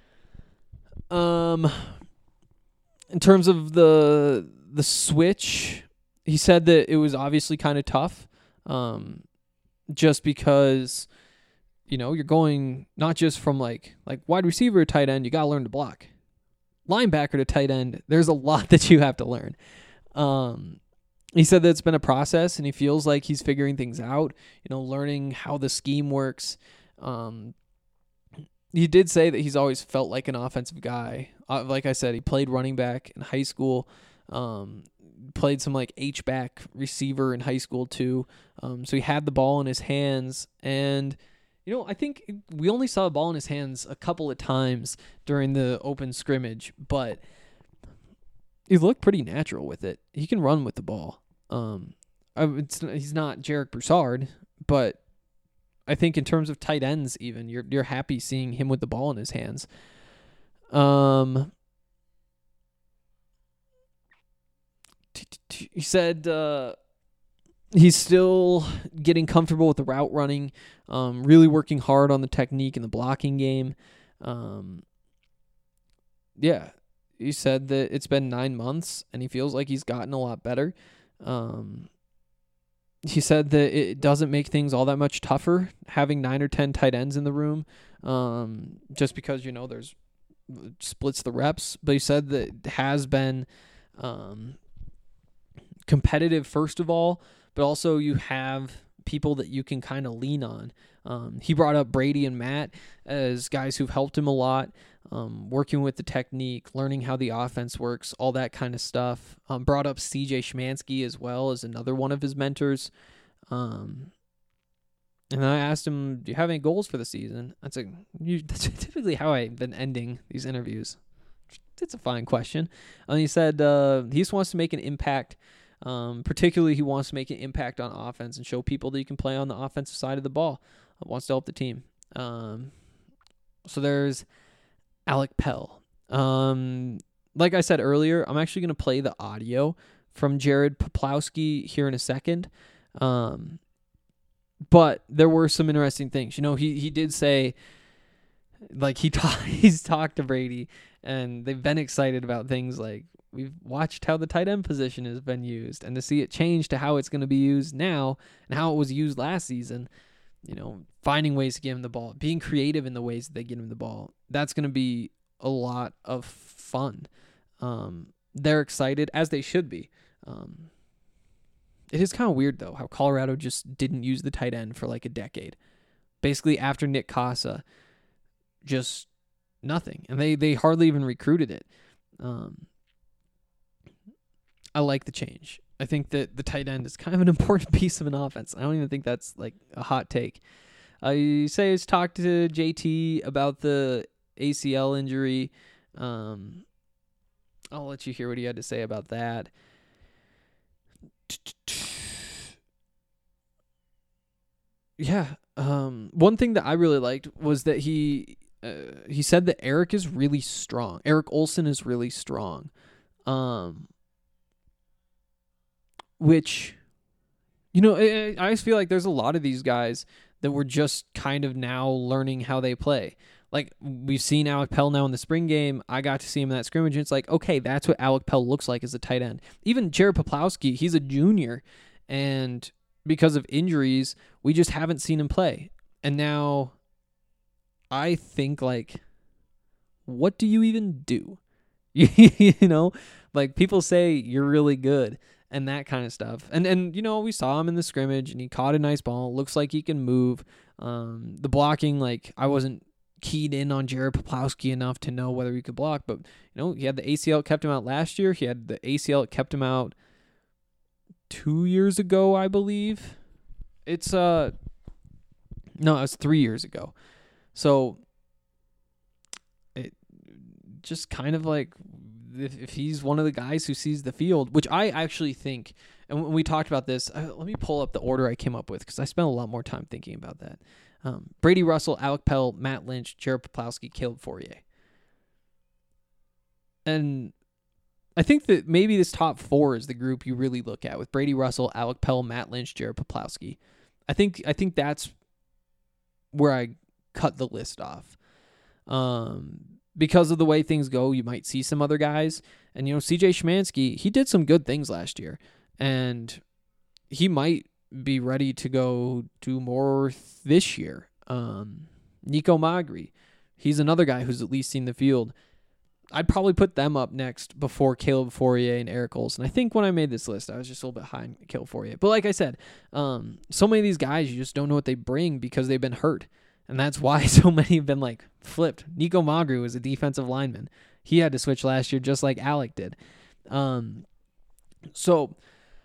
Speaker 6: Um, in terms of the the switch, he said that it was obviously kind of tough, um, just because, you know, you're going not just from like like wide receiver to tight end, you got to learn to block. Linebacker to tight end, there's a lot that you have to learn. Um, he said that it's been a process, and he feels like he's figuring things out, you know, learning how the scheme works. Um, he did say that he's always felt like an offensive guy. Uh, like I said, he played running back in high school, um, played some like H-back receiver in high school too. Um, so he had the ball in his hands, and you know, I think we only saw the ball in his hands a couple of times during the open scrimmage, but he looked pretty natural with it. He can run with the ball. Um, it's, he's not Jarek Broussard, but I think in terms of tight ends, even you're you're happy seeing him with the ball in his hands. Um, he said uh, he's still getting comfortable with the route running, um, really working hard on the technique and the blocking game. Um, yeah, he said that it's been nine months and he feels like he's gotten a lot better. Um, he said that it doesn't make things all that much tougher having nine or ten tight ends in the room, um, just because, you know, there's splits the reps. But he said that it has been um, competitive, first of all, but also you have people that you can kind of lean on. Um, he brought up Brady and Matt as guys who've helped him a lot, um, working with the technique, learning how the offense works, all that kind of stuff. Um, brought up C J Schmansky as well as another one of his mentors. Um, and I asked him, do you have any goals for the season? That's, a, you, that's typically how I've been ending these interviews. It's a fine question. And he said uh, he just wants to make an impact. Um, particularly, he wants to make an impact on offense and show people that you can play on the offensive side of the ball. He wants to help the team. Um, so there's Alec Pell. Um, like I said earlier, I'm actually going to play the audio from Jared Poplowski here in a second. Um, but there were some interesting things. You know, he he did say, like he ta- he's talked to Brady, and they've been excited about things like, we've watched how the tight end position has been used, and to see it change to how it's going to be used now and how it was used last season, you know, finding ways to give him the ball, being creative in the ways that they get him the ball, that's going to be a lot of fun. Um, they're excited, as they should be. Um, it is kind of weird, though, how Colorado just didn't use the tight end for like a decade. Basically, after Nick Casa, just nothing. And they, they hardly even recruited it. Um, I like the change. I think that the tight end is kind of an important piece of an offense. I don't even think that's like a hot take. I say he's talked to J T about the A C L injury. Um, I'll let you hear what he had to say about that. Yeah. Um, one thing that I really liked was that he uh, he said that Eric is really strong. Eric Olson is really strong. Um. Which, you know, I, I just feel like there's a lot of these guys that were just kind of now learning how they play. Like, we've seen Alec Pell now in the spring game. I got to see him in that scrimmage, and it's like, okay, that's what Alec Pell looks like as a tight end. Even Jared Poplowski, he's a junior, and because of injuries, we just haven't seen him play. And now I think, like, what do you even do? You know, like, people say you're really good and that kind of stuff. And, and you know, we saw him in the scrimmage, and he caught a nice ball. Looks like he can move. Um, the blocking, like, I wasn't keyed in on Jared Poplawski enough to know whether he could block. But, you know, he had the A C L that kept him out last year. He had the A C L that kept him out two years ago, I believe. It's, uh, no, it was three years ago. So, it just kind of like, if, if he's one of the guys who sees the field, which I actually think, and when we talked about this, uh, let me pull up the order I came up with, because I spent a lot more time thinking about that. Um, Brady Russell, Alec Pell, Matt Lynch, Jared Poplawski, Caleb Fourier. And I think that maybe this top four is the group you really look at, with Brady Russell, Alec Pell, Matt Lynch, Jared Poplawski. I think I think that's where I cut the list off. Um, because of the way things go, you might see some other guys. And, you know, C J Szymanski, he did some good things last year. And he might be ready to go do more th- this year. Um, Nico Magri, he's another guy who's at least seen the field. I'd probably put them up next before Caleb Fourier and Eric Olson. I think when I made this list, I was just a little bit high on Caleb Fourier. But like I said, um, so many of these guys, you just don't know what they bring because they've been hurt. And that's why so many have been, like, flipped. Nico Magri was a defensive lineman. He had to switch last year just like Alec did. Um, so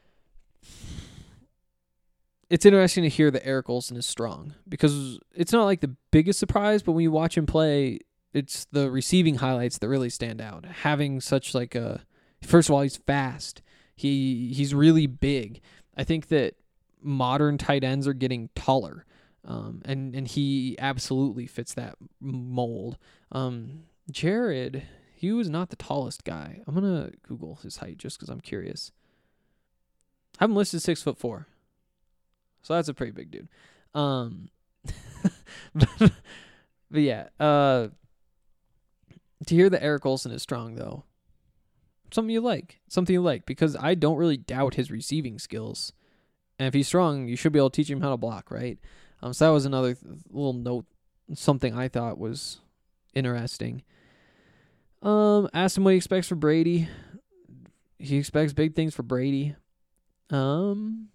Speaker 6: it's interesting to hear that Eric Olson is strong, because it's not like the biggest surprise, but when you watch him play, it's the receiving highlights that really stand out. Having such like a, first of all, he's fast. He he's really big. I think that modern tight ends are getting taller, um, and and he absolutely fits that mold. Um, Jared, he was not the tallest guy. I'm gonna Google his height just because I'm curious. I have him listed six foot four, so that's a pretty big dude. Um, but, but yeah, uh. To hear that Eric Olson is strong, though, something you like, something you like, because I don't really doubt his receiving skills. And if he's strong, you should be able to teach him how to block, right? Um, so that was another th- little note, something I thought was interesting. Um, asked him what he expects for Brady. He expects big things for Brady. Um,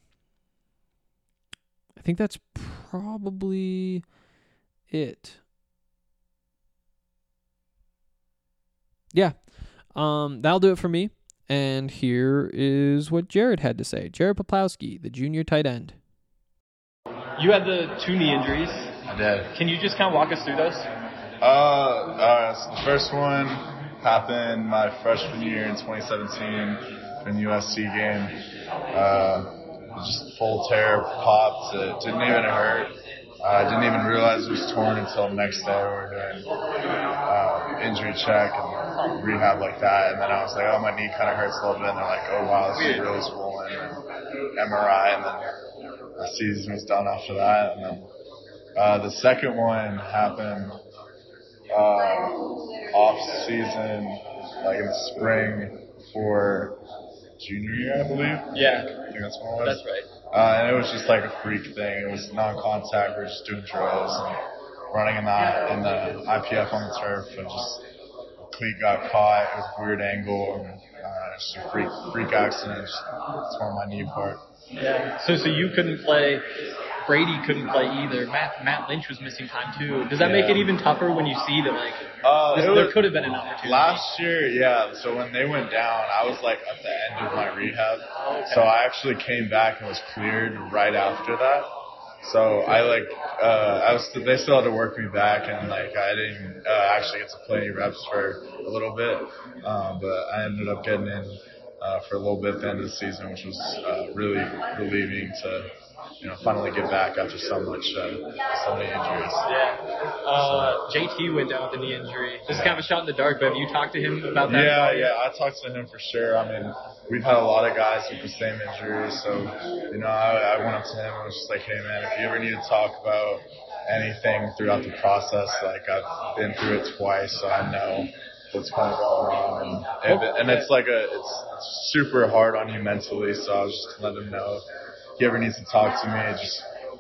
Speaker 6: I think that's probably it. Yeah, um, that'll do it for me. And here is what Jared had to say. Jared Poplawski, the junior tight end.
Speaker 7: You had the two knee injuries.
Speaker 8: I did.
Speaker 7: Can you just kind of walk us through those?
Speaker 8: Uh, uh so the first one happened my freshman year in twenty seventeen in the U S C game. Uh, just full tear, popped. It didn't even hurt. I uh, didn't even realize it was torn until the next day. We were doing uh, injury check and rehab like that. And then I was like, oh, my knee kind of hurts a little bit. And they're like, oh, wow, this is really swollen. And M R I. And then the season was done after that. And then uh, the second one happened uh, off season, like in the spring for junior year, I believe.
Speaker 7: Yeah.
Speaker 8: I think that's what it was.
Speaker 7: That's right.
Speaker 8: Uh, and it was just like a freak thing. It was non-contact. We were just doing drills and running in the, in the I P F on the turf, and just a cleat got caught. It was a weird angle, and uh, just a freak freak accident. Just tore my knee apart.
Speaker 7: Yeah. So so you couldn't play. Brady couldn't play either. Matt Matt Lynch was missing time too. Does that
Speaker 8: Yeah.
Speaker 7: make it even tougher when you see that, like,
Speaker 8: uh,
Speaker 7: this,
Speaker 8: was,
Speaker 7: there could have been an opportunity?
Speaker 8: Last year, yeah. So when they went down, I was like at the end of my rehab.
Speaker 7: Okay.
Speaker 8: So I actually came back and was cleared right after that. So I like uh, I was they still had to work me back, and like I didn't uh, actually get to play any reps for a little bit, um, but I ended up getting in uh, for a little bit at the end of the season, which was uh, really relieving to, you know, finally get back after so much, uh, so many injuries.
Speaker 7: Yeah. Uh, J T went down with a knee injury. This is kind of a shot in the dark, but have you talked to him about that?
Speaker 8: Yeah, yeah, I talked to him for sure. I mean, we've had a lot of guys with the same injuries, so, you know, I, I went up to him and was just like, hey, man, if you ever need to talk about anything throughout the process, like, I've been through it twice, so I know what's kind of going on. And, and, and it's like a, it's, it's super hard on you mentally, so I was just letting him know if he ever needs to talk to me, just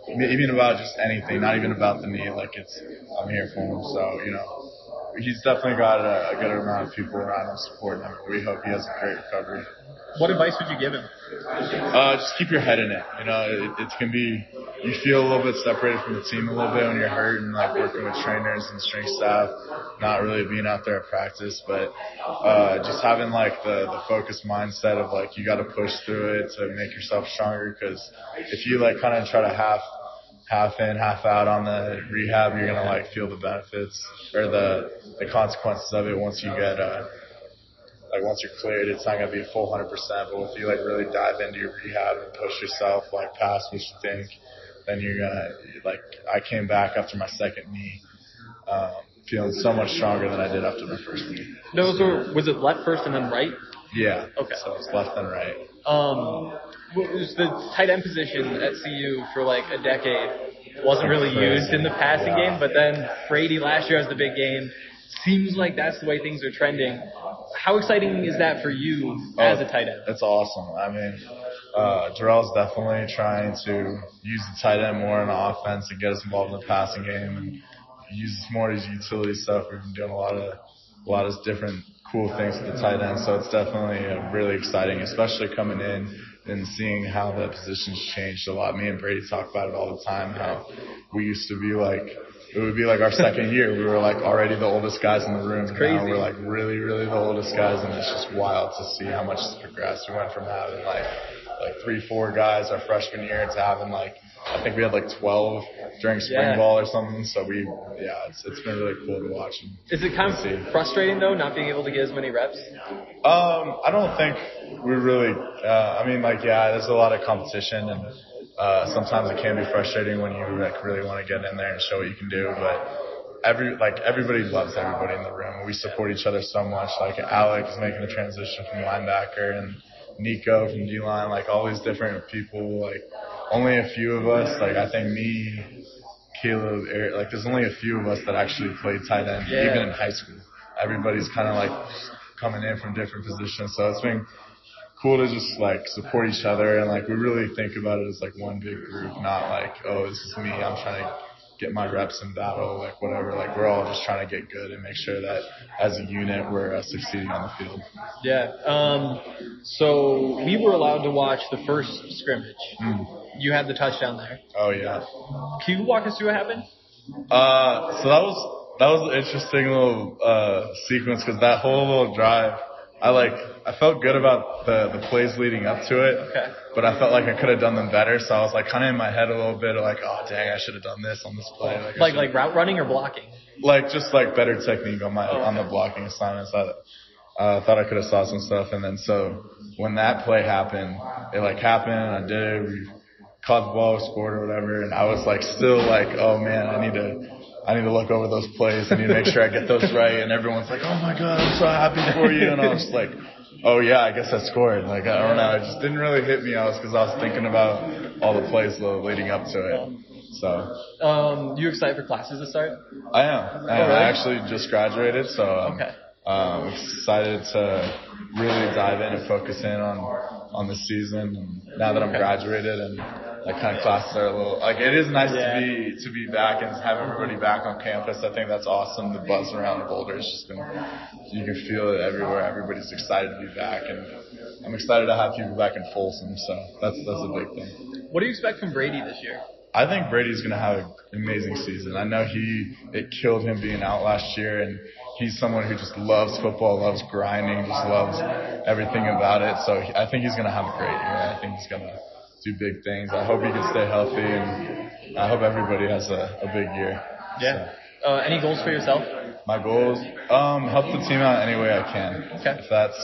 Speaker 8: even about just anything, not even about the knee. Like it's, I'm here for him. So, you know, he's definitely got a, a good amount of people around him supporting him. We hope he has a great recovery.
Speaker 7: What advice would you give him?
Speaker 8: Uh, just keep your head in it. You know, it, it can be, you feel a little bit separated from the team a little bit when you're hurt and like working with trainers and strength staff, not really being out there at practice, but uh, just having like the, the focused mindset of like you got to push through it to make yourself stronger. Because if you like kind of try to half half in, half out on the rehab, you're gonna like feel the benefits or the the consequences of it once you get uh, like once you're cleared. It's not gonna be a full hundred percent, but if you like really dive into your rehab and push yourself like past what you think, then you're gonna like. I came back after my second knee, um, feeling so much stronger than I did after my first knee.
Speaker 7: Those were, was it left first and then right?
Speaker 8: Yeah.
Speaker 7: Okay.
Speaker 8: So it's left and right.
Speaker 7: Um, what was the tight end position at C U for like a decade? Wasn't really
Speaker 8: Crazy.
Speaker 7: used in the passing
Speaker 8: Yeah.
Speaker 7: game, but then Brady last year has the big game. Seems like that's the way things are trending. How exciting is that for you as a tight end?
Speaker 8: It's awesome. I mean, uh, Darrell's definitely trying to use the tight end more in the offense and get us involved in the passing game and use us more as utility stuff. We've been doing a lot of a lot of different cool things with the tight end, so it's definitely uh, really exciting, especially coming in and seeing how the position's changed a lot. Me and Brady talk about it all the time, how we used to be like, it would be like our second year. We were like already the oldest guys in the room.
Speaker 7: It's crazy.
Speaker 8: Now we're like really, really the oldest guys, and it's just wild to see how much it's progressed. We went from having like like three, four guys our freshman year to having like, I think we had like twelve during spring
Speaker 7: Yeah.
Speaker 8: ball or something. So we, yeah, it's it's been really cool to watch. And
Speaker 7: Is it kind
Speaker 8: see.
Speaker 7: of frustrating though, not being able to get as many reps?
Speaker 8: Um, I don't think we really. Uh, I mean, like, yeah, there's a lot of competition, and uh, sometimes it can be frustrating when you like really want to get in there and show what you can do. But every like everybody loves everybody in the room. We support each other so much. Like Alex is making the transition from linebacker, and Nico from D-line. Like all these different people. Like only a few of us. Like I think me, Caleb, Eric. Like there's only a few of us that actually played tight end,
Speaker 7: Yeah.
Speaker 8: even in high school. Everybody's kind of like coming in from different positions, so it's been cool to just like support each other, and like we really think about it as like one big group, not like, oh, this is me, I'm trying to get my reps in battle, like whatever. Like we're all just trying to get good and make sure that as a unit we're uh, succeeding on the field.
Speaker 7: Yeah. Um, so we were allowed to watch the first scrimmage.
Speaker 8: Mm.
Speaker 7: You had the touchdown there.
Speaker 8: Oh yeah.
Speaker 7: Can you walk us through what happened?
Speaker 8: Uh, so that was that was an interesting little uh sequence because that whole little drive, I like I felt good about the the plays leading up to it.
Speaker 7: Okay.
Speaker 8: But I felt like I could have done them better, so I was like kind of in my head a little bit of like, oh dang, I should have done this on this play. Like I
Speaker 7: Like
Speaker 8: should've-
Speaker 7: like route running or blocking?
Speaker 8: like just like better technique on my
Speaker 7: Oh,
Speaker 8: on the
Speaker 7: okay.
Speaker 8: blocking assignments. I uh, thought I could have saw some stuff, and then so when that play happened, it like happened. I did it. We caught the ball, scored or whatever, and I was like still like, oh man, I need to. I need to look over those plays. I need to make sure I get those right. And everyone's like, oh my God, I'm so happy for you. And I was like, oh yeah, I guess I scored. Like, I don't know. It just didn't really hit me. I was, cause I was thinking about all the plays leading up to it. So.
Speaker 7: Um, you excited for classes to start?
Speaker 8: I am. I am. I actually just graduated, so I'm
Speaker 7: Okay.
Speaker 8: um, excited to really dive in and focus in on, on the season. And now that I'm
Speaker 7: Okay.
Speaker 8: graduated and like kind of classes are a little like it is nice
Speaker 7: Yeah.
Speaker 8: to be to be back and have everybody back on campus. I think that's awesome. The buzz around Boulder has just been you can feel it everywhere. Everybody's excited to be back, and I'm excited to have people back in Folsom. So that's that's a big thing.
Speaker 7: What do you expect from Brady this year?
Speaker 8: I think Brady's going to have an amazing season. I know he it killed him being out last year, and he's someone who just loves football, loves grinding, just loves everything about it. So he, I think he's going to have a great year. I think he's going to do big things. I hope he can stay healthy, and I hope everybody has a, a big year.
Speaker 7: Yeah. Uh, any goals for yourself?
Speaker 8: So, my goals, um, help the team out any way I can.
Speaker 7: Okay.
Speaker 8: If that's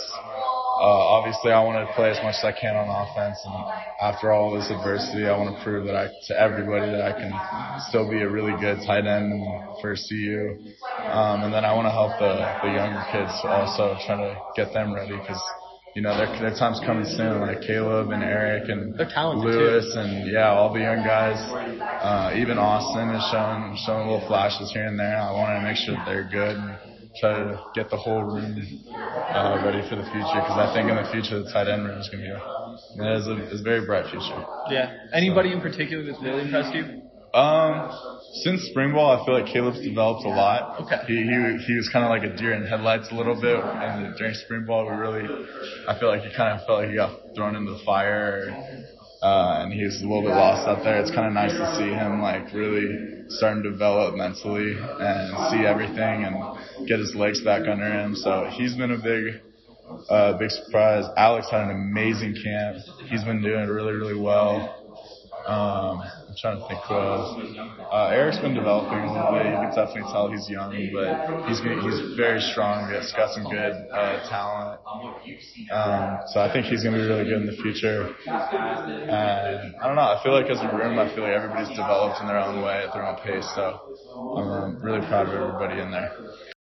Speaker 8: Uh, obviously, I want to play as much as I can on offense, and after all this adversity, I want to prove that I to everybody that I can still be a really good tight end for C U. Um, and then I want to help the, the younger kids also, try to get them ready because you know their their time's coming soon. Like Caleb and Eric and
Speaker 7: They're talented
Speaker 8: Lewis
Speaker 7: too.
Speaker 8: and yeah, all the young guys. Uh, even Austin is showing showing little flashes here and there. I want to make sure that they're good. And, try to get the whole room uh, ready for the future because I think in the future the tight end room is going to be Yeah, it's a, it's a very bright future.
Speaker 7: Yeah. Anybody in particular that's really impressed you?
Speaker 8: Um, since spring ball, I feel like Caleb's developed a lot.
Speaker 7: Okay.
Speaker 8: He he, he was kind of like a deer in headlights a little bit, and during spring ball, we really, I feel like he kind of felt like he got thrown into the fire, uh, and he was a little bit lost out there. It's kind of nice to see him like really starting to develop mentally and see everything and get his legs back under him. So he's been a big. Uh, big surprise. Alex had an amazing camp. He's been doing really, really well. Um, I'm trying to think who else. Uh, Eric's been developing a little bit. You can definitely tell he's young, but he's he's very strong. He's got some good uh, talent. Um, so I think he's going to be really good in the future. And I don't know. I feel like as a room, I feel like everybody's developed in their own way at their own pace. So I'm um, really proud of everybody in there.